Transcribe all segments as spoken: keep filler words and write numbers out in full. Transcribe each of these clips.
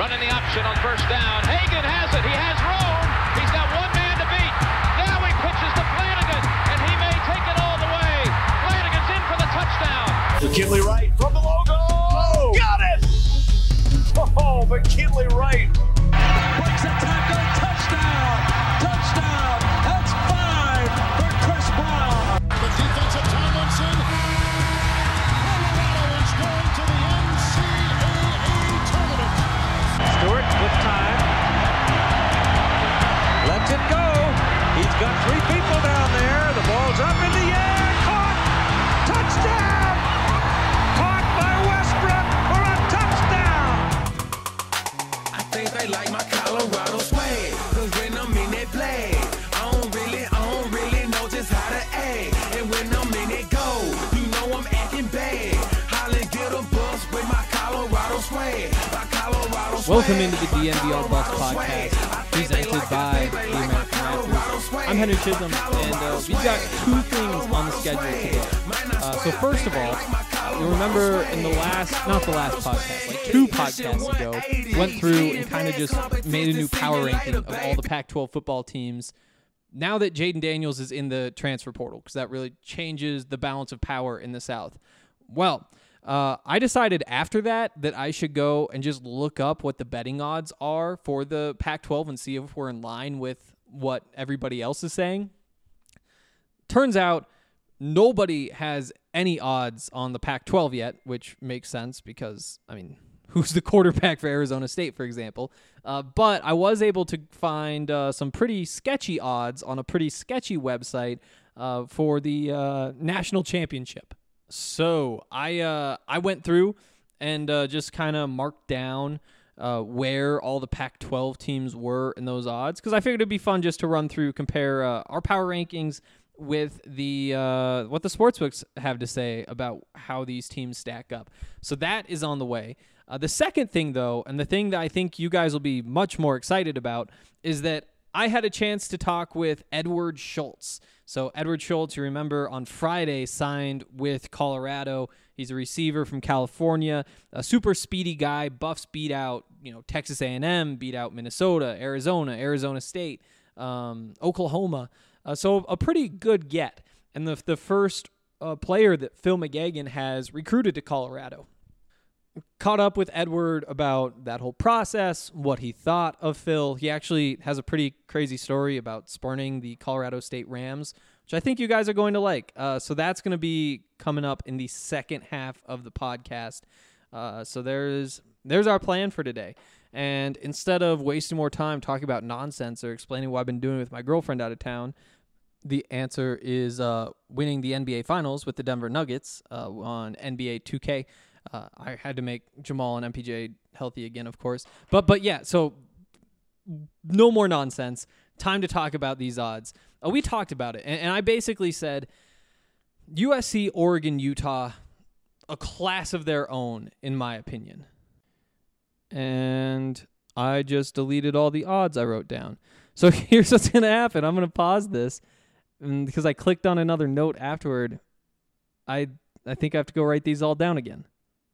Running the option on first down. Hagan has it. He has room. He's got one man to beat. Now he pitches to Flanagan, and he may take it all the way. Flanagan's in for the touchdown. McKinley Wright from the logo. Oh, got it! Oh, McKinley Wright. Breaks a tackle. Touchdown. Touchdown. That's five for Chris Brown. The defensive Tomlinson. Colorado is going to the N C double A tournament. Stewart with time. Lets it go. He's got three people down there. The ball's up in the air. Caught. Touchdown. Caught by Westbrook for a touchdown. I think they like my Colorado swag. Cause when I'm in that play, I don't really, I don't really know just how to act. And when I'm in it go, you know I'm acting bad. Holly get a bus with my Colorado swag. My Colorado swag. Welcome into the D N B All Bucks podcast, presented by the American Raptors. I'm Henry Chisholm, and uh, we've got two things on the schedule today. Uh, so first of all, uh, you remember in the last, not the last podcast, like two podcasts ago, went through and kind of just made a new power ranking of all the Pac twelve football teams now that Jaden Daniels is in the transfer portal, because that really changes the balance of power in the South. Well, Uh, I decided after that that I should go and just look up what the betting odds are for the Pac twelve and see if we're in line with what everybody else is saying. Turns out nobody has any odds on the Pac twelve yet, which makes sense because, I mean, who's the quarterback for Arizona State, for example? Uh, but I was able to find uh, some pretty sketchy odds on a pretty sketchy website uh, for the uh, national championship. So I uh, I went through and uh, just kind of marked down uh, where all the Pac twelve teams were in those odds, because I figured it'd be fun just to run through, compare uh, our power rankings with the uh, what the sportsbooks have to say about how these teams stack up. So that is on the way. Uh, the second thing, though, and the thing that I think you guys will be much more excited about, is that I had a chance to talk with Edward Schultz. So Edward Schultz, you remember, on Friday signed with Colorado. He's a receiver from California, a super speedy guy. Buffs beat out, you know, Texas A and M, beat out Minnesota, Arizona, Arizona State, um, Oklahoma. Uh, so a pretty good get. And the the first uh, player that Phil McGagan has recruited to Colorado. Caught up with Edward about that whole process, what he thought of Phil. He actually has a pretty crazy story about spurning the Colorado State Rams, which I think you guys are going to like. Uh, so that's going to be coming up in the second half of the podcast. Uh, so there's there's our plan for today. And instead of wasting more time talking about nonsense or explaining what I've been doing with my girlfriend out of town, the answer is uh, winning the N B A Finals with the Denver Nuggets uh, on N B A two K. Uh, I had to make Jamal and M P J healthy again, of course. But but yeah, so no more nonsense. Time to talk about these odds. Uh, we talked about it, and, and I basically said U S C, Oregon, Utah, a class of their own, in my opinion. And I just deleted all the odds I wrote down. So here's what's going to happen. I'm going to pause this, and because I clicked on another note afterward, I I think I have to go write these all down again.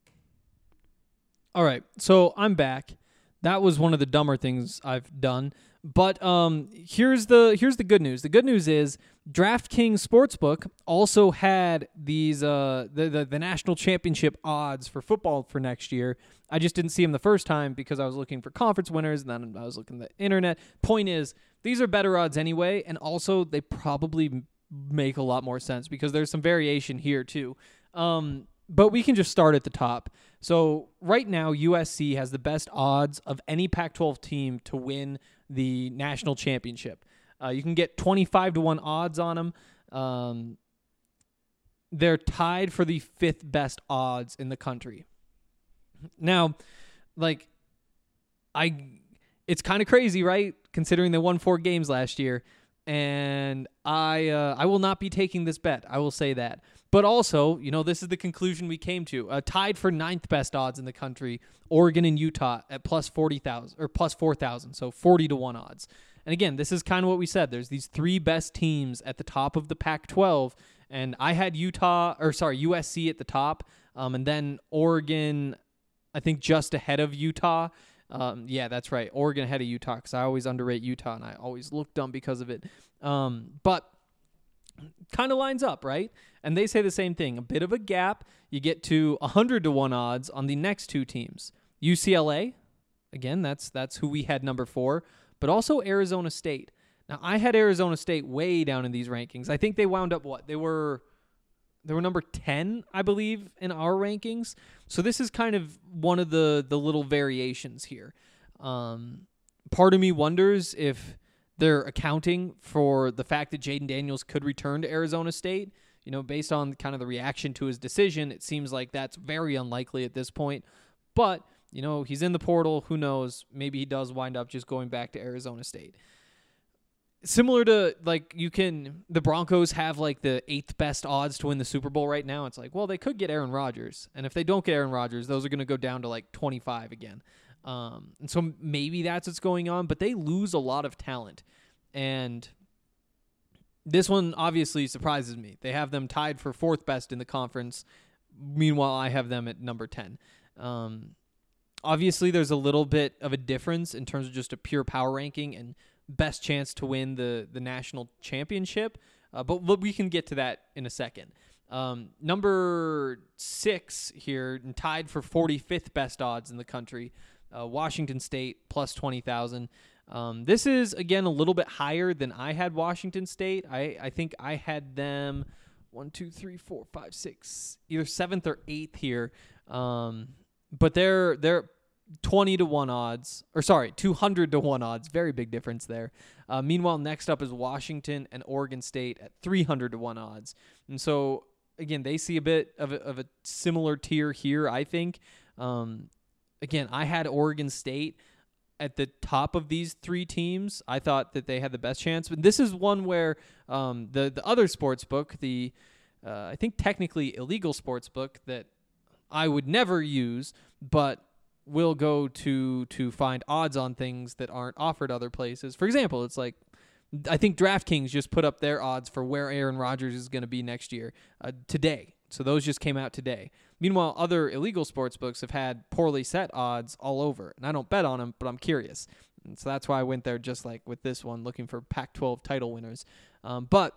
All right, so I'm back. That was one of the dumber things I've done. But um, here's the here's the good news. The good news is DraftKings Sportsbook also had these uh, the, the the national championship odds for football for next year. I just didn't see them the first time because I was looking for conference winners, and then I was looking at the internet. Point is, these are better odds anyway, and also they probably make a lot more sense because there's some variation here too. Um, but we can just start at the top. So right now, U S C has the best odds of any Pac twelve team to win the national championship. Uh, you can get twenty-five to one odds on them. Um, they're tied for the fifth best odds in the country. Now, like, I, it's kind of crazy, right? Considering they won four games last year. And I uh, I will not be taking this bet. I will say that. But also, you know, this is the conclusion we came to. Uh, tied for ninth best odds in the country, Oregon and Utah at plus forty thousand or plus four thousand, so forty to one odds. And again, this is kind of what we said. There's these three best teams at the top of the Pac twelve, and I had Utah or sorry U S C at the top, um, and then Oregon, I think just ahead of Utah. Um, yeah, that's right. Oregon ahead of Utah because I always underrate Utah and I always look dumb because of it. Um, but kind of lines up, right? And they say the same thing. A bit of a gap. You get to one hundred to one odds on the next two teams. U C L A, again, that's that's who we had number four, but also Arizona State. Now, I had Arizona State way down in these rankings. I think they wound up what? They were they were number ten, I believe, in our rankings. So this is kind of one of the the little variations here. Um, part of me wonders if they're accounting for the fact that Jaden Daniels could return to Arizona State. You know, based on kind of the reaction to his decision, it seems like that's very unlikely at this point. But, you know, he's in the portal. Who knows? Maybe he does wind up just going back to Arizona State. Similar to, like, you can, the Broncos have, like, the eighth best odds to win the Super Bowl right now. It's like, well, they could get Aaron Rodgers. And if they don't get Aaron Rodgers, those are going to go down to, like, twenty-five again. Um, and so maybe that's what's going on. But they lose a lot of talent. And this one obviously surprises me. They have them tied for fourth best in the conference. Meanwhile, I have them at number ten. Um, obviously, there's a little bit of a difference in terms of just a pure power ranking and best chance to win the, the national championship. Uh, but, but we can get to that in a second. Um, number six here, and tied for forty-fifth best odds in the country, uh, Washington State, plus twenty thousand. Um, this is, again, a little bit higher than I had Washington State. I, I think I had them one, two, three, four, five, six, either seventh or eighth here. Um, but they're they're twenty to one odds, or sorry, two hundred to one odds. Very big difference there. Uh, meanwhile, next up is Washington and Oregon State at three hundred to one odds. And so, again, they see a bit of a, of a similar tier here, I think. Um, again, I had Oregon State at the top of these three teams. I thought that they had the best chance. But this is one where um, the, the other sports book, the uh, I think technically illegal sports book that I would never use, but will go to to find odds on things that aren't offered other places. For example, it's like, I think DraftKings just put up their odds for where Aaron Rodgers is going to be next year uh, today. So those just came out today. Meanwhile, other illegal sports books have had poorly set odds all over. And I don't bet on them, but I'm curious. And so that's why I went there, just like with this one, looking for Pac twelve title winners. Um, but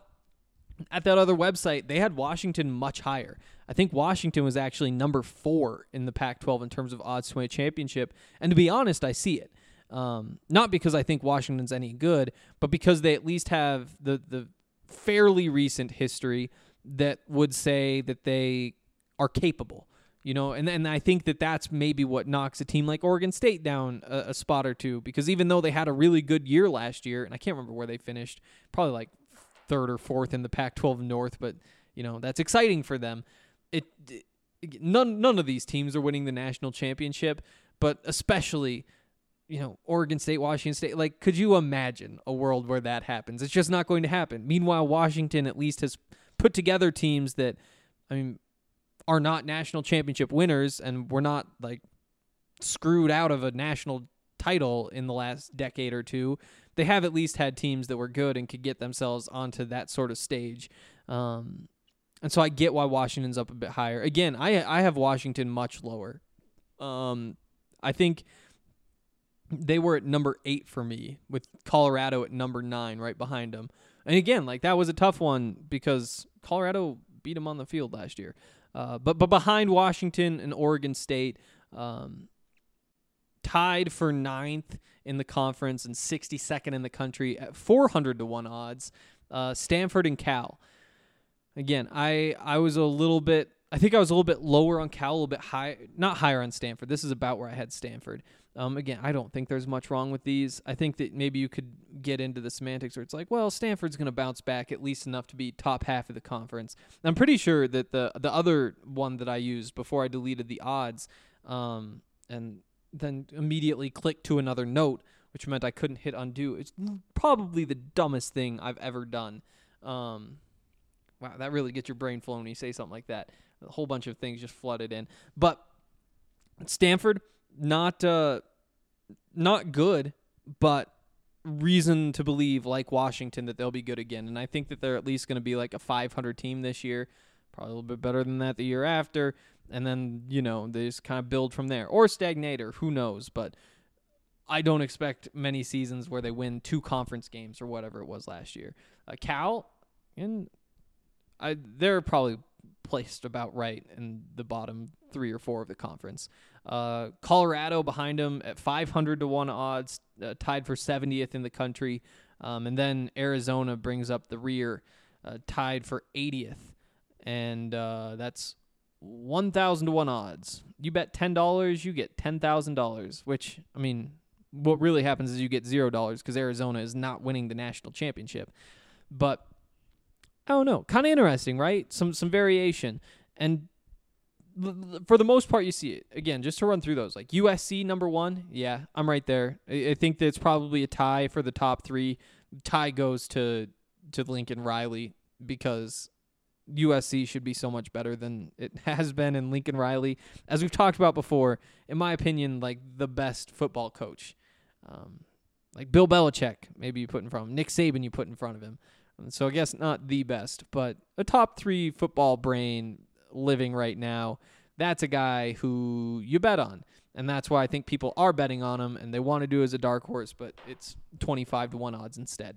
at that other website, they had Washington much higher. I think Washington was actually number four in the Pac twelve in terms of odds to win a championship. And to be honest, I see it. Um, not because I think Washington's any good, but because they at least have the the fairly recent history that would say that they are capable, you know, and and I think that that's maybe what knocks a team like Oregon State down a, a spot or two, because even though they had a really good year last year, and I can't remember where they finished, probably like third or fourth in the Pac twelve North, but you know, that's exciting for them. It, it none none of these teams are winning the national championship, but especially, you know, Oregon State, Washington State, like, could you imagine a world where that happens? It's just not going to happen. Meanwhile, Washington at least has put together teams that, I mean, are not national championship winners, and we're not, like, screwed out of a national title in the last decade or two. They have at least had teams that were good and could get themselves onto that sort of stage. Um, and so I get why Washington's up a bit higher. Again, I I have Washington much lower. Um, I think they were at number eight for me, with Colorado at number nine right behind them. And again, like, that was a tough one because Colorado beat them on the field last year. Uh, but but behind Washington and Oregon State, um, tied for ninth in the conference and sixty-second in the country at four hundred to one odds, uh, Stanford and Cal. Again, I I was a little bit, I think I was a little bit lower on Cal, a little bit high, not higher on Stanford. This is about where I had Stanford. Um, again, I don't think there's much wrong with these. I think that maybe you could get into the semantics where it's like, well, Stanford's going to bounce back at least enough to be top half of the conference. I'm pretty sure that the the other one that I used before I deleted the odds, um, and then immediately clicked to another note, which meant I couldn't hit undo. It's probably the dumbest thing I've ever done. Um, wow, that really gets your brain flowing when you say something like that. A whole bunch of things just flooded in. But Stanford, not uh, not good, but reason to believe, like Washington, that they'll be good again. And I think that they're at least going to be like a five hundred team this year, probably a little bit better than that the year after. And then, you know, they just kind of build from there, or stagnate, or who knows. But I don't expect many seasons where they win two conference games or whatever it was last year. Uh, Cal, and I, they're probably placed about right in the bottom three or four of the conference. Uh, Colorado behind them at five hundred to one odds, uh, tied for seventieth in the country. Um, and then Arizona brings up the rear, uh, tied for eightieth. And uh, that's one thousand to one odds. You bet ten dollars, you get ten thousand dollars, which, I mean, what really happens is you get zero dollars because Arizona is not winning the national championship. But I don't know, kind of interesting, right? Some some variation. And for the most part, you see it. Again, just to run through those, like U S C number one, yeah, I'm right there. I think that it's probably a tie for the top three. Tie goes to to Lincoln Riley because U S C should be so much better than it has been in Lincoln Riley. As we've talked about before, in my opinion, like the best football coach. Um, like Bill Belichick, maybe you put in front of him. Nick Saban, you put in front of him. So I guess not the best, but a top three football brain living right now. That's a guy who you bet on. And that's why I think people are betting on him, and they want to do it as a dark horse, but it's twenty-five to one odds instead.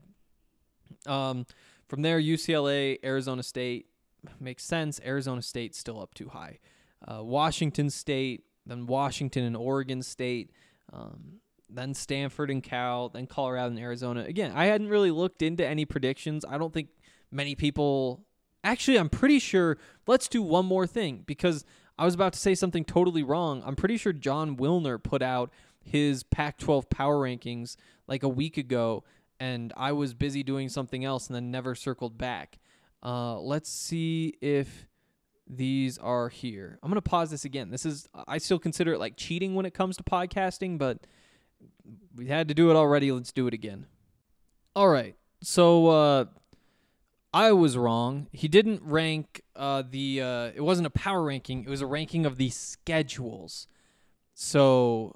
Um, from there, U C L A, Arizona State. Makes sense. Arizona State's still up too high. Uh, Washington State, then Washington and Oregon State, um, then Stanford and Cal, then Colorado and Arizona. Again, I hadn't really looked into any predictions. I don't think many people... Actually, I'm pretty sure... Let's do one more thing, because I was about to say something totally wrong. I'm pretty sure John Wilner put out his Pac twelve power rankings like a week ago, and I was busy doing something else and then never circled back. Uh, let's see if these are here. I'm going to pause this again. This is, I still consider it like cheating when it comes to podcasting, but we had to do it already. Let's do it again. All right. So, uh, I was wrong. He didn't rank, uh, the, uh, it wasn't a power ranking. It was a ranking of the schedules. So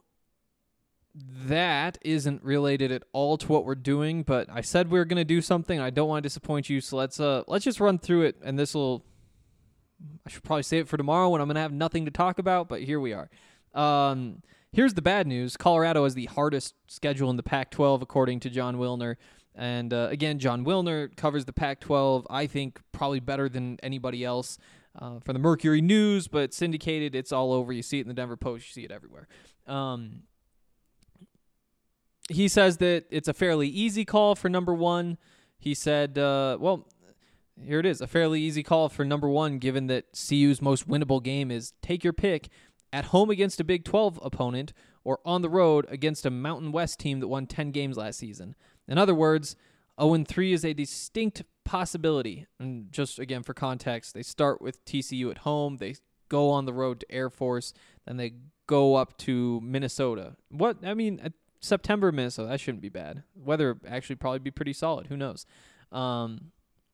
that isn't related at all to what we're doing, but I said we were going to do something. I don't want to disappoint you, so let's uh let's just run through it, and this will, I should probably save it for tomorrow when I'm going to have nothing to talk about, but here we are. Um, here's the bad news. Colorado has the hardest schedule in the Pac twelve, according to John Wilner, and uh, again, John Wilner covers the Pac twelve, I think, probably better than anybody else uh, for the Mercury News, but it's syndicated. It's all over. You see it in the Denver Post. You see it everywhere. Um He says that it's a fairly easy call for number one. He said, uh, well, here it is, a fairly easy call for number one, given that C U's most winnable game is take your pick, at home against a Big twelve opponent or on the road against a Mountain West team that won ten games last season. In other words, oh and three is a distinct possibility. And just, again, for context, they start with T C U at home. They go on the road to Air Force. Then they go up to Minnesota. What, I mean... September, Minnesota, that shouldn't be bad. Weather actually probably be pretty solid. Who knows? Um,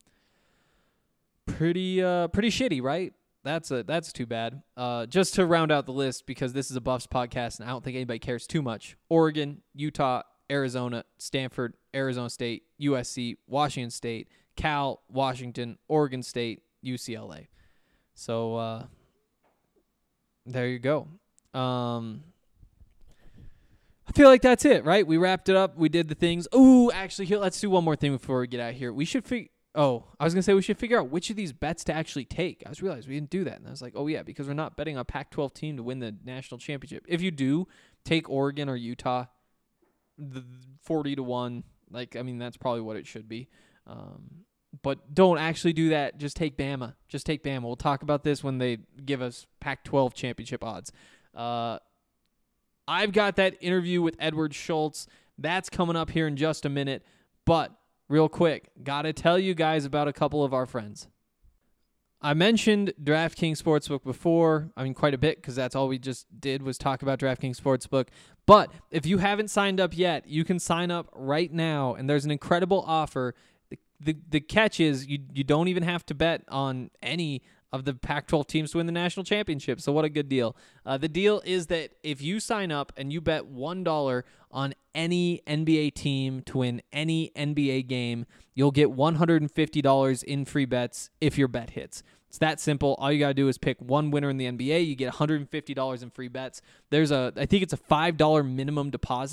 pretty uh, pretty shitty, right? That's a that's too bad. Uh, just to round out the list, because this is a Buffs podcast, and I don't think anybody cares too much. Oregon, Utah, Arizona, Stanford, Arizona State, U S C, Washington State, Cal, Washington, Oregon State, U C L A. So uh, there you go. Um, I feel like that's it, right? We wrapped it up. We did the things. Ooh, actually, here, let's do one more thing before we get out of here. We should figure... Oh, I was going to say we should figure out which of these bets to actually take. I just realized we didn't do that. And I was like, oh, yeah, because we're not betting on a Pac twelve team to win the national championship. If you do, take Oregon or Utah, the forty to one. Like, I mean, that's probably what it should be. Um, but don't actually do that. Just take Bama. Just take Bama. We'll talk about this when they give us Pac twelve championship odds. Uh I've got that interview with Edward Schultz. That's coming up here in just a minute. But real quick, got to tell you guys about a couple of our friends. I mentioned DraftKings Sportsbook before. I mean, quite a bit, because that's all we just did was talk about DraftKings Sportsbook. But if you haven't signed up yet, you can sign up right now, and there's an incredible offer. The, the, the catch is you, you don't even have to bet on any of the Pac twelve teams to win the national championship. So what a good deal. Uh, the deal is that if you sign up and you bet one dollar on any N B A team to win any N B A game, you'll get one hundred fifty dollars in free bets if your bet hits. It's that simple. All you got to do is pick one winner in the N B A. You get one hundred fifty dollars in free bets. There's a, I think it's a five dollar minimum deposit.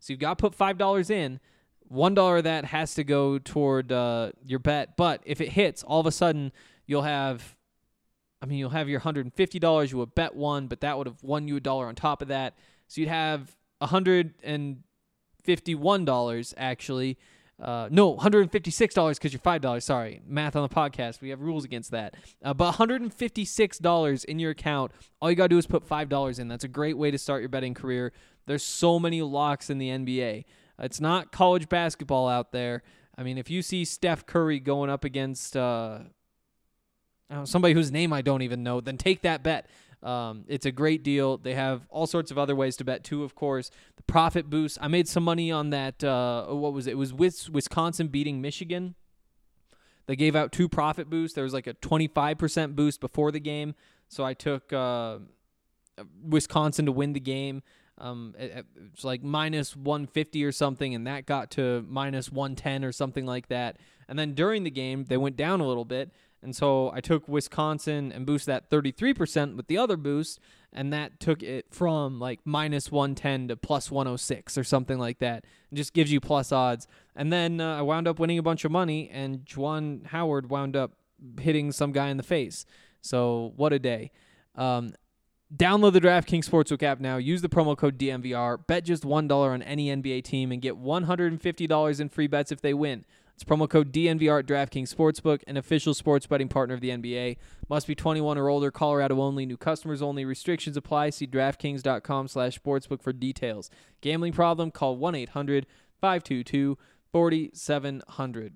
So you've got to put five dollars in. one dollar of that has to go toward uh, your bet. But if it hits, all of a sudden you'll have, I mean, you'll have your one hundred fifty dollars. You would bet one, but that would have won you a dollar on top of that. So you'd have one hundred fifty-one dollars actually. Uh, no, one hundred fifty-six dollars because you're five dollars. Sorry, math on the podcast. We have rules against that. Uh, but one hundred fifty-six dollars in your account. All you got to do is put five dollars in. That's a great way to start your betting career. There's so many locks in the N B A. It's not college basketball out there. I mean, if you see Steph Curry going up against uh, I don't know, somebody whose name I don't even know, then take that bet. Um, it's a great deal. They have all sorts of other ways to bet too, of course. The profit boost. I made some money on that. Uh, what was it? It was with Wisconsin beating Michigan. They gave out two profit boosts. There was like a twenty-five percent boost before the game. So I took uh, Wisconsin to win the game. Um, it, it's like minus one fifty or something, and that got to minus one ten or something like that. And then during the game, they went down a little bit. And so I took Wisconsin and boosted that thirty-three percent with the other boost, and that took it from like minus one ten to plus one oh six or something like that. It just gives you plus odds. And then uh, I wound up winning a bunch of money, and Juwan Howard wound up hitting some guy in the face. So what a day. Um, download the DraftKings Sportsbook app now. Use the promo code D M V R. Bet just one dollar on any N B A team and get one hundred fifty dollars in free bets if they win. It's promo code D N V R at DraftKings Sportsbook, an official sports betting partner of the N B A. Must be twenty-one or older, Colorado only, new customers only. Restrictions apply. See DraftKings.com slash sportsbook for details. Gambling problem? Call one eight hundred five two two four seven zero zero.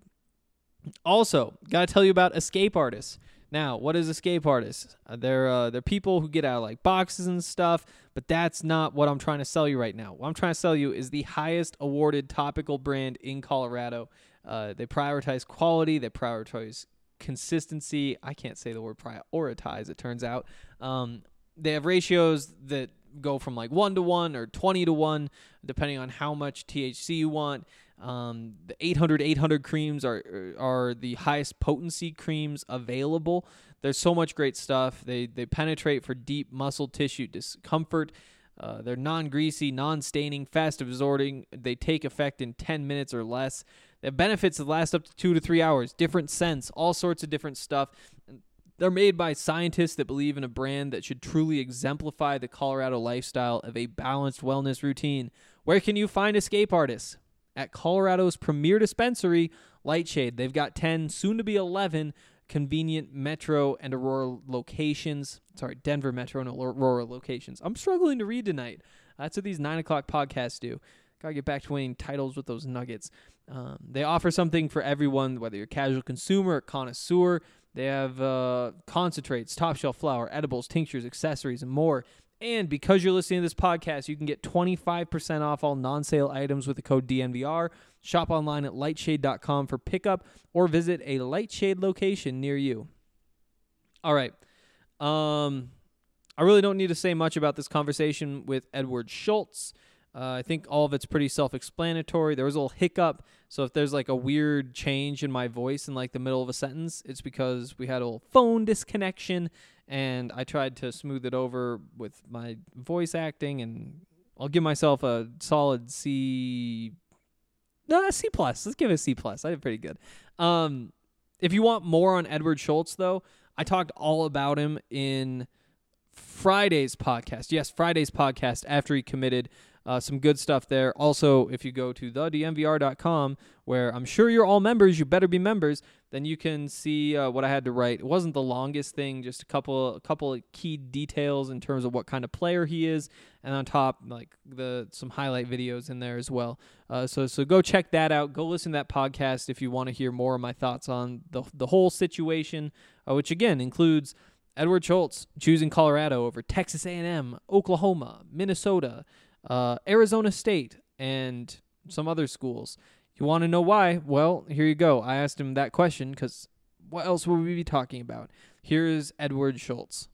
Also, got to tell you about Escape Artists. Now, what is Escape Artists? Uh, they're, uh, they're people who get out of like boxes and stuff, but that's not what I'm trying to sell you right now. What I'm trying to sell you is the highest awarded topical brand in Colorado. Uh, they prioritize quality. They prioritize consistency. I can't say the word prioritize, it turns out. Um, they have ratios that go from like one to one or twenty to one, depending on how much T H C you want. Um, the eight hundred eight hundred creams are are the highest potency creams available. There's so much great stuff. They they penetrate for deep muscle tissue discomfort. Uh, they're non-greasy, non-staining, fast absorbing. They take effect in ten minutes or less. They have benefits that last up to two to three hours, different scents, all sorts of different stuff. They're made by scientists that believe in a brand that should truly exemplify the Colorado lifestyle of a balanced wellness routine. Where can you find Escape Artists? At Colorado's premier dispensary, Lightshade. They've got ten, soon to be eleven, convenient Metro and Aurora locations. Sorry, Denver Metro and Aurora locations. I'm struggling to read tonight. That's what these nine o'clock podcasts do. Got to get back to winning titles with those Nuggets. Um, they offer something for everyone, whether you're a casual consumer or connoisseur. They have uh, concentrates, top shelf flour, edibles, tinctures, accessories, and more. And because you're listening to this podcast, you can get twenty-five percent off all non-sale items with the code D N V R. Shop online at lightshade dot com for pickup or visit a Lightshade location near you. All right. Um, I really don't need to say much about this conversation with Edward Schultz. Uh, I think all of it's pretty self-explanatory. There was a little hiccup, so if there's like a weird change in my voice in like the middle of a sentence, it's because we had a little phone disconnection, and I tried to smooth it over with my voice acting, and I'll give myself a solid C. No, C plus. Let's give it a C plus. I did pretty good. Um, if you want more on Edward Schultz, though, I talked all about him in Friday's podcast. Yes, Friday's podcast after he committed. Uh, some good stuff there. Also, if you go to the D M V R dot com, where I'm sure you're all members, you better be members, then you can see uh, what I had to write. It wasn't the longest thing, just a couple, a couple of key details in terms of what kind of player he is, and on top, like the some highlight videos in there as well. Uh, so, so go check that out. Go listen to that podcast if you want to hear more of my thoughts on the the whole situation, uh, which again includes Edward Schultz choosing Colorado over Texas A and M, Oklahoma, Minnesota, Uh, Arizona State, and some other schools. You want to know why? Well, here you go. I asked him that question because what else would we be talking about? Here's Edward Schultz.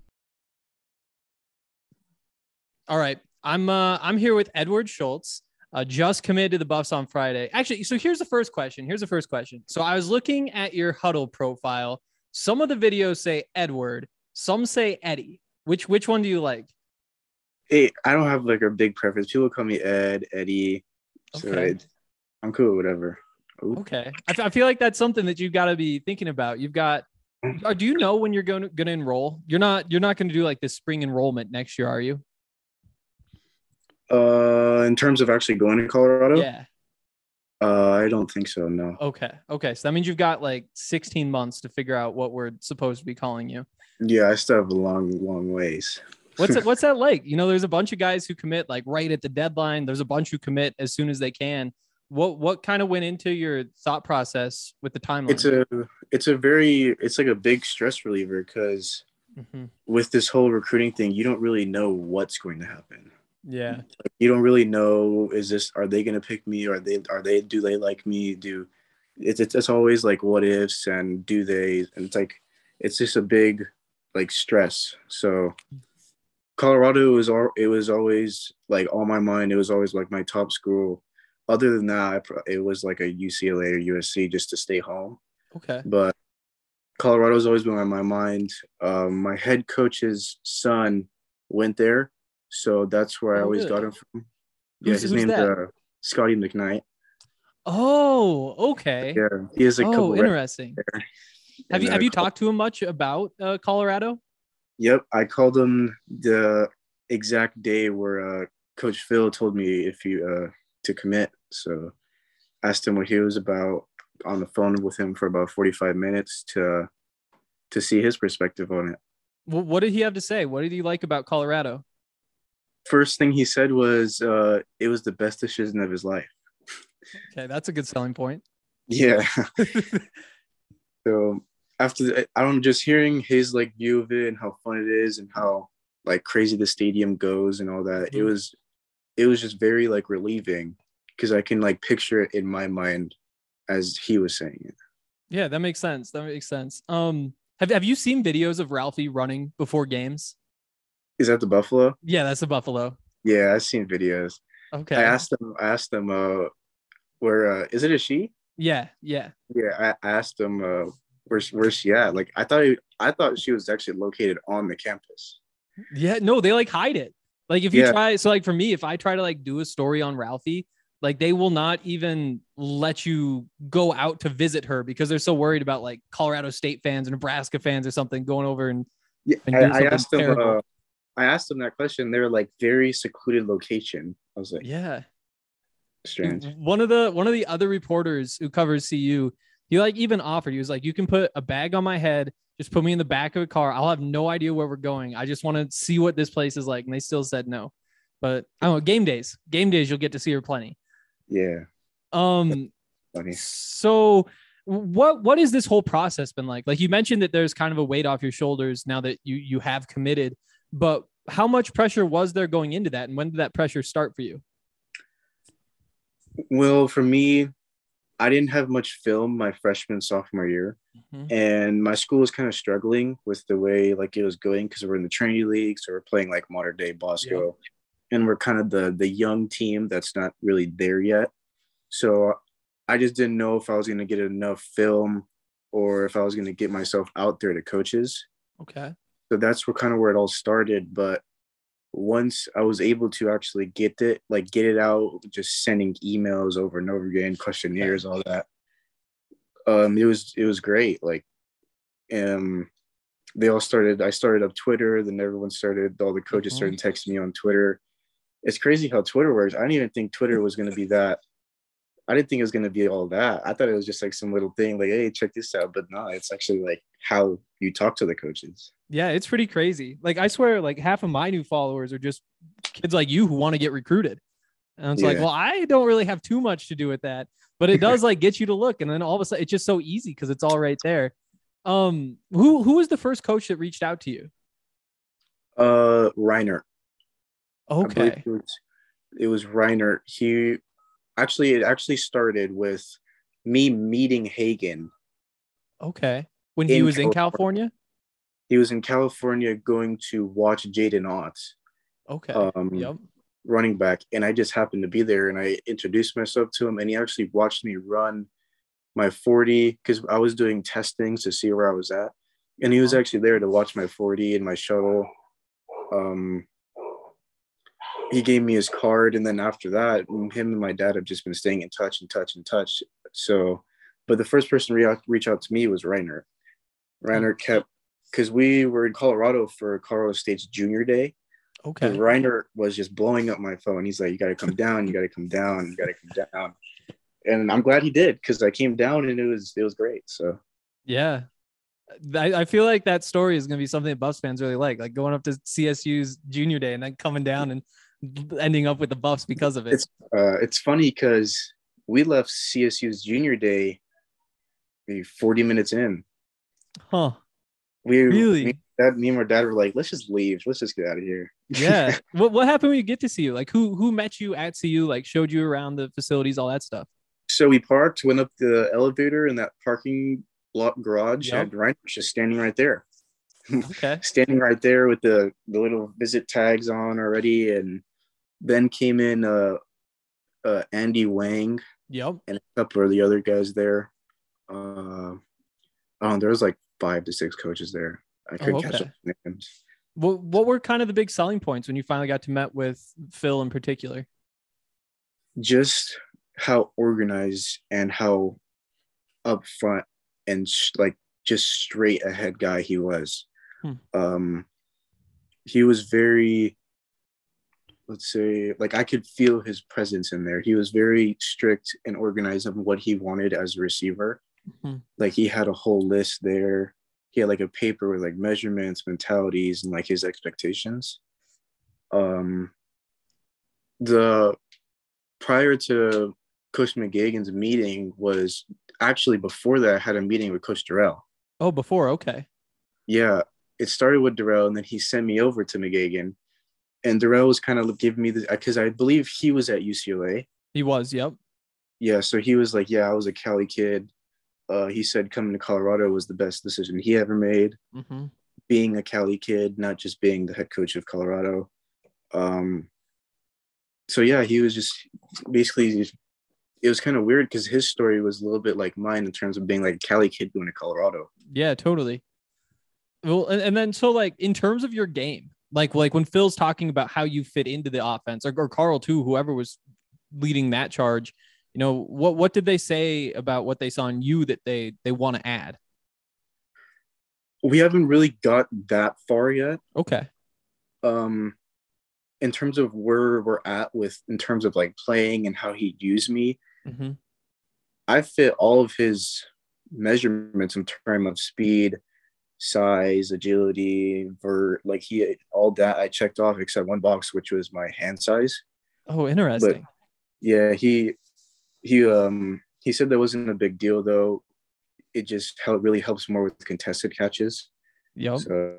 All right, I'm uh, I'm here with Edward Schultz. Uh, just committed to the Buffs on Friday. Actually, so here's the first question. Here's the first question. So I was looking at your Huddle profile. Some of the videos say Edward. Some say Eddie. Which which one do you like? Hey, I don't have like a big preference. People call me Ed, Eddie. So Okay. it, I'm cool with whatever. Ooh. Okay. I, f- I feel like that's something that you've got to be thinking about. You've got, or do you know when you're going to, going to enroll? You're not, you're not going to do like this spring enrollment next year, are you? Uh, in terms of actually going to Colorado, Yeah. uh, I don't think so. No. Okay. Okay. So that means you've got like sixteen months to figure out what we're supposed to be calling you. Yeah, I still have a long, long ways. What's it, what's that like? You know, there's a bunch of guys who commit like right at the deadline. There's a bunch who commit as soon as they can. What, what kind of went into your thought process with the timeline? It's a, it's a very, it's like a big stress reliever because Mhm. with this whole recruiting thing, you don't really know what's going to happen. Yeah. Like, you don't really know, is this, are they going to pick me? Are they, are they, do they like me? Do it's, it's, it's always like what ifs and do they, and it's like, it's just a big like stress. So Colorado was, all it was always like on my mind. It was always like my top school. Other than that, I pro- it was like a U C L A or U S C just to stay home. Okay. But Colorado's always been on my mind. Um, my head coach's son went there, so that's where I Oh, always really? got him from. Yeah, Who's- his who's name's that? uh, Scotty McKnight. Oh, okay. Yeah, he has a couple. Oh, records interesting. there. Have And, you, have uh, you talked to him much about uh, Colorado? Yep, I called him the exact day where uh, Coach Phil told me if you uh, to commit. So asked him what he was about on the phone with him for about forty-five minutes to to see his perspective on it. Wh- What did he have to say? What did he like about Colorado? First thing he said was uh, it was the best decision of his life. Okay, that's a good selling point. Yeah. So after the, I don't know, just hearing his like view of it and how fun it is and how like crazy the stadium goes and all that, it Mhm. was it was just very like relieving because I can like picture it in my mind as he was saying it. Yeah, that makes sense. That makes sense. Um, have have you seen videos of Ralphie running before games? Is that the Buffalo? Yeah, that's a Buffalo. Yeah, I've seen videos. Okay. I asked him. I asked him. Uh, where uh, is it a she? Yeah, yeah. Yeah, I asked him. Uh, where's where's she at? Like I thought. He, I thought she was actually located on the campus. Yeah, no, they like hide it. Like if you Yeah. try, so like for me, if I try to like do a story on Ralphie, like they will not even let you go out to visit her because they're so worried about like Colorado State fans or Nebraska fans or something going over and, Yeah, and I, do I something asked them. terrible. Uh, I asked them that question. They were like very secluded location. I was like, Yeah. strange. One of the one of the other reporters who covers C U, he like even offered, he was like, you can put a bag on my head, just put me in the back of a car. I'll have no idea where we're going. I just want to see what this place is like. And they still said no. But I don't know, game days. Game days, you'll get to see her plenty. Yeah, Um funny. so what what has this whole process been like? Like you mentioned that there's kind of a weight off your shoulders now that you you have committed, but how much pressure was there going into that? And when did that pressure start for you? Well, for me, I didn't have much film my freshman sophomore year, Mhm. and my school was kind of struggling with the way like it was going because we're in the trainee league, so we're playing like modern day Bosco, and we're kind of the the young team that's not really there yet. So I just didn't know if I was going to get enough film or if I was going to get myself out there to coaches. Okay. So that's where kind of where it all started. But once I was able to actually get it, like get it out, just sending emails over and over again, questionnaires, all that. Um, it was it was great. Like, um, they all started. I started up Twitter, then everyone started. All the coaches Mhm. started texting me on Twitter. It's crazy how Twitter works. I didn't even think Twitter was going to be that. I didn't think it was going to be all that. I thought it was just like some little thing, like, hey, check this out. But no, it's actually like how you talk to the coaches. Yeah, it's pretty crazy. Like I swear, like half of my new followers are just kids like you who want to get recruited. And it's like, Yeah. well, I don't really have too much to do with that, but it does like get you to look. And then all of a sudden it's just so easy because it's all right there. Um, who who was the first coach that reached out to you? Uh, Reiner. I believe Okay. It was, it was Reiner. He actually, it actually started with me meeting Hagen. Okay. When he In was in California. California? He was in California going to watch Jaden Ott, Okay. um, Yep. running back. And I just happened to be there and I introduced myself to him and he actually watched me run my forty because I was doing testings to see where I was at. And he was actually there to watch my forty and my shuttle. Um, he gave me his card, and then after that, him and my dad have just been staying in touch and touch and touch. So, but the first person to re- reach out to me was Reiner. Reiner kept, because we were in Colorado for Colorado State's junior day. Okay. Reiner was just blowing up my phone. He's like, you got to come down, you got to come down, you got to come down. And I'm glad he did, because I came down and it was it was great. So yeah. I, I feel like that story is going to be something that Buffs fans really like, like going up to C S U's junior day and then coming down and ending up with the Buffs because of it. It's uh, it's funny because we left C S U's junior day maybe forty minutes in. Huh. We really? Me, dad, me and my dad were like, let's just leave. Let's just get out of here. Yeah. What what happened when you get to C U? Like who who met you at C U? Like showed you around the facilities, all that stuff. So we parked, went up the elevator in that parking lot garage, Yep. and Ryan was just standing right there. Okay. Standing right there with the, the little visit tags on already. And then came in uh, uh, Andy Wang Yep. and a couple of the other guys there. Uh, oh, there was like five to six coaches there. I couldn't Oh, catch okay. up the names. What what were kind of the big selling points when you finally got to met with Phil in particular? Just how organized and how upfront and sh- like just straight ahead guy he was. Hmm. Um, he was very, let's say, like I could feel his presence in there. He was very strict and organized on what he wanted as a receiver. Hmm. Like he had a whole list there. He had like a paper with like measurements, mentalities, and like his expectations. Um, the prior to Coach McGagan's meeting was actually before that I had a meeting with Coach Durrell. Oh, before. Okay. Yeah, it started with Durrell, and then he sent me over to McGagan. And Durrell was kind of giving me the, because I believe he was at U C L A. He was. Yep. Yeah, so he was like, yeah, I was a Cali kid. Uh, he said coming to Colorado was the best decision he ever made. Mm-hmm. Being a Cali kid, not just being the head coach of Colorado. Um, so yeah, he was just basically, it was kind of weird because his story was a little bit like mine in terms of being like a Cali kid going to Colorado. Yeah, totally. Well, and, and then so like in terms of your game, like like when Phil's talking about how you fit into the offense, or, or Carl too, whoever was leading that charge, you know, what what did they say about what they saw in you that they they want to add? We haven't really got that far yet. Okay. Um, in terms of where we're at with, in terms of like playing and how he used me, Mm-hmm. I fit all of his measurements in terms of speed, size, agility, vert, like he, all that I checked off except one box, which was my hand size. Oh, interesting. But yeah, he, he, um, he said that wasn't a big deal though. It just how it really helps more with contested catches. Yep. So,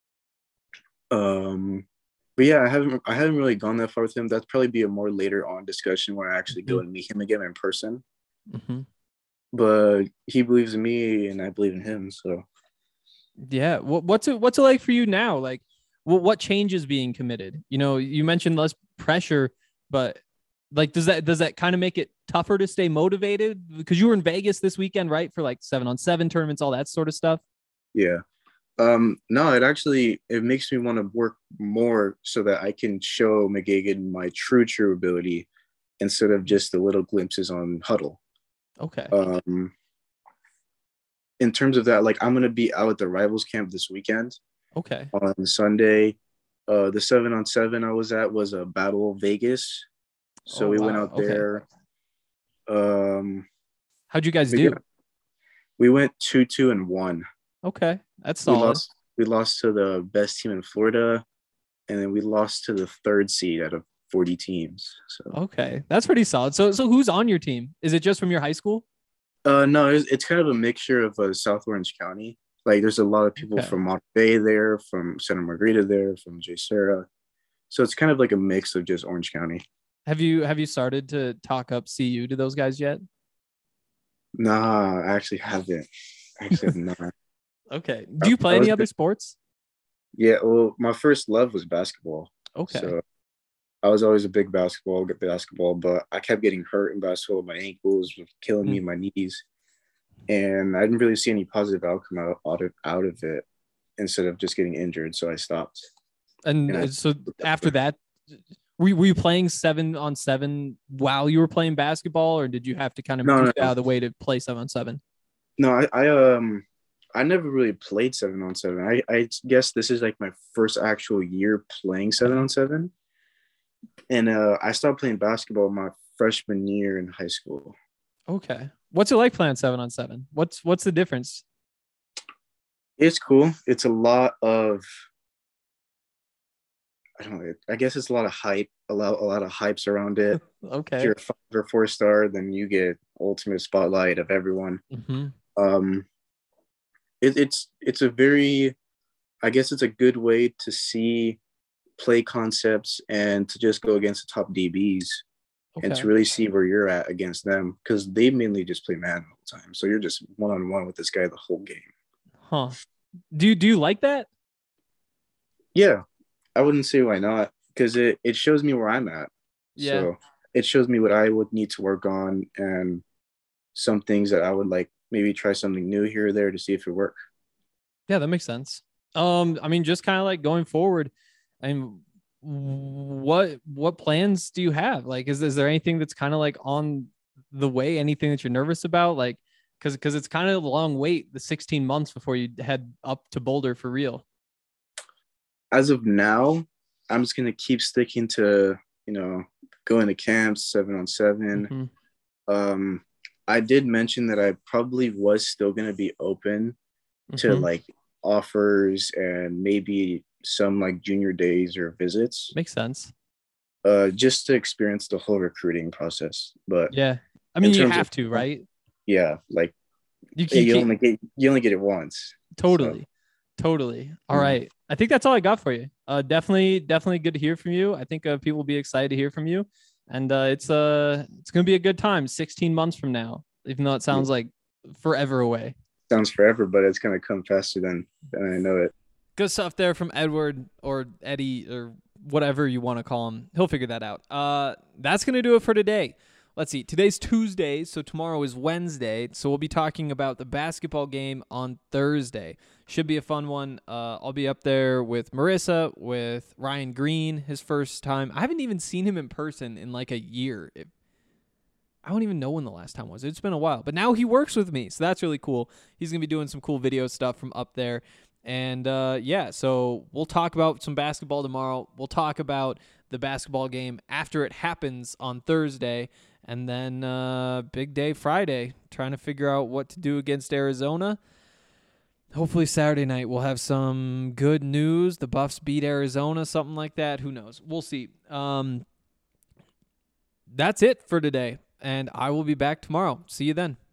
um, but yeah, I haven't I haven't really gone that far with him. That's probably be a more later on discussion where I actually Mm-hmm. go and meet him again in person. Mm-hmm. But he believes in me, and I believe in him. So Yeah. What, what's it What's it like for you now? Like, what what changes being committed? You know, you mentioned less pressure, but like, does that does that kind of make it tougher to stay motivated? Because you were in Vegas this weekend, right? For like seven on seven tournaments, all that sort of stuff. yeah, um, no, it actually it makes me want to work more so that I can show McGagan my true true ability instead of just the little glimpses on Huddle. Okay. Um, in terms of that, like I'm gonna be out at the Rivals camp this weekend. Okay. On Sunday. Uh, the seven on seven I was at was a Battle Vegas. So Oh, we went wow. out Okay. there. Um, How'd you guys but do? yeah, we went two, two, and one. Okay. That's We solid. lost. We lost to the best team in Florida, and then we lost to the third seed out of forty teams. So, Okay. That's pretty solid. So, so who's on your team? Is it just from your high school? uh, no, it's, it's kind of a mixture of uh, South Orange County. Like, there's a lot of people Okay. from Monterey there, from Santa Margarita there, from J. Sarah. So it's kind of like a mix of just Orange County. Have you have you started to talk up C U to those guys yet? Nah, I actually haven't. I actually have not. Okay. Do you play I was any other good. sports? Yeah, well, my first love was basketball. Okay. So I was always a big basketball, good basketball, but I kept getting hurt in basketball. My ankles were killing me, my knees. And I didn't really see any positive outcome out, out, of, out of it instead of just getting injured. So I stopped. And and I- so after that, Were you, were you playing seven on seven while you were playing basketball, or did you have to kind of No, move no, no. out of the way to play seven on seven? No, I, I um I never really played seven on seven. I, I guess this is like my first actual year playing seven on seven. And uh, I started playing basketball my freshman year in high school. Okay. What's it like playing seven on seven? What's what's the difference? It's cool. It's a lot of I don't know. I guess it's a lot of hype, a lot, a lot of hypes around it. Okay. If you're a five or four star, then you get ultimate spotlight of everyone. Mm-hmm. Um, it, it's it's a very, I guess it's a good way to see play concepts and to just go against the top D Bs Okay. and to really see where you're at against them, because they mainly just play man all the time. So you're just one on one with this guy the whole game. Huh. Do you do you like that? Yeah, I wouldn't say why not, because it, it shows me where I'm at. Yeah. So it shows me what I would need to work on and some things that I would like maybe try something new here or there to see if it works. Yeah, that makes sense. Um, I mean, just kind of like going forward, I mean, what what plans do you have? Like, is is there anything that's kind of like on the way? Anything that you're nervous about? Like, because because it's kind of a long wait, the sixteen months before you head up to Boulder for real. As of now, I'm just gonna keep sticking to, you know, going to camps seven on seven. Mm-hmm. Um, I did mention that I probably was still gonna be open to Mhm. like offers and maybe some like junior days or visits, Makes sense. uh, just to experience the whole recruiting process. But Yeah, I mean, In you terms have of- to, right? yeah, like You, you, you can't- only get you only get it once. Totally. Totally. All Mhm. right. I think that's all I got for you. Uh, definitely, definitely good to hear from you. I think uh, people will be excited to hear from you. And uh, it's uh, it's going to be a good time sixteen months from now, even though it sounds like forever away. Sounds forever, but it's gonna come faster than than I know it. Good stuff there from Edward or Eddie or whatever you want to call him. He'll figure that out. Uh, that's going to do it for today. Let's see. Today's Tuesday, so tomorrow is Wednesday. So we'll be talking about the basketball game on Thursday. Should be a fun one. Uh, I'll be up there with Marissa, with Ryan Green, his first time. I haven't even seen him in person in like a year. It, I don't even know when the last time was. It's been a while. But now he works with me, so that's really cool. He's going to be doing some cool video stuff from up there. And, uh, yeah, so we'll talk about some basketball tomorrow. We'll talk about the basketball game after it happens on Thursday. And then uh, big day Friday, trying to figure out what to do against Arizona. Hopefully Saturday night we'll have some good news. The Buffs beat Arizona, something like that. Who knows? We'll see. Um, that's it for today. And I will be back tomorrow. See you then.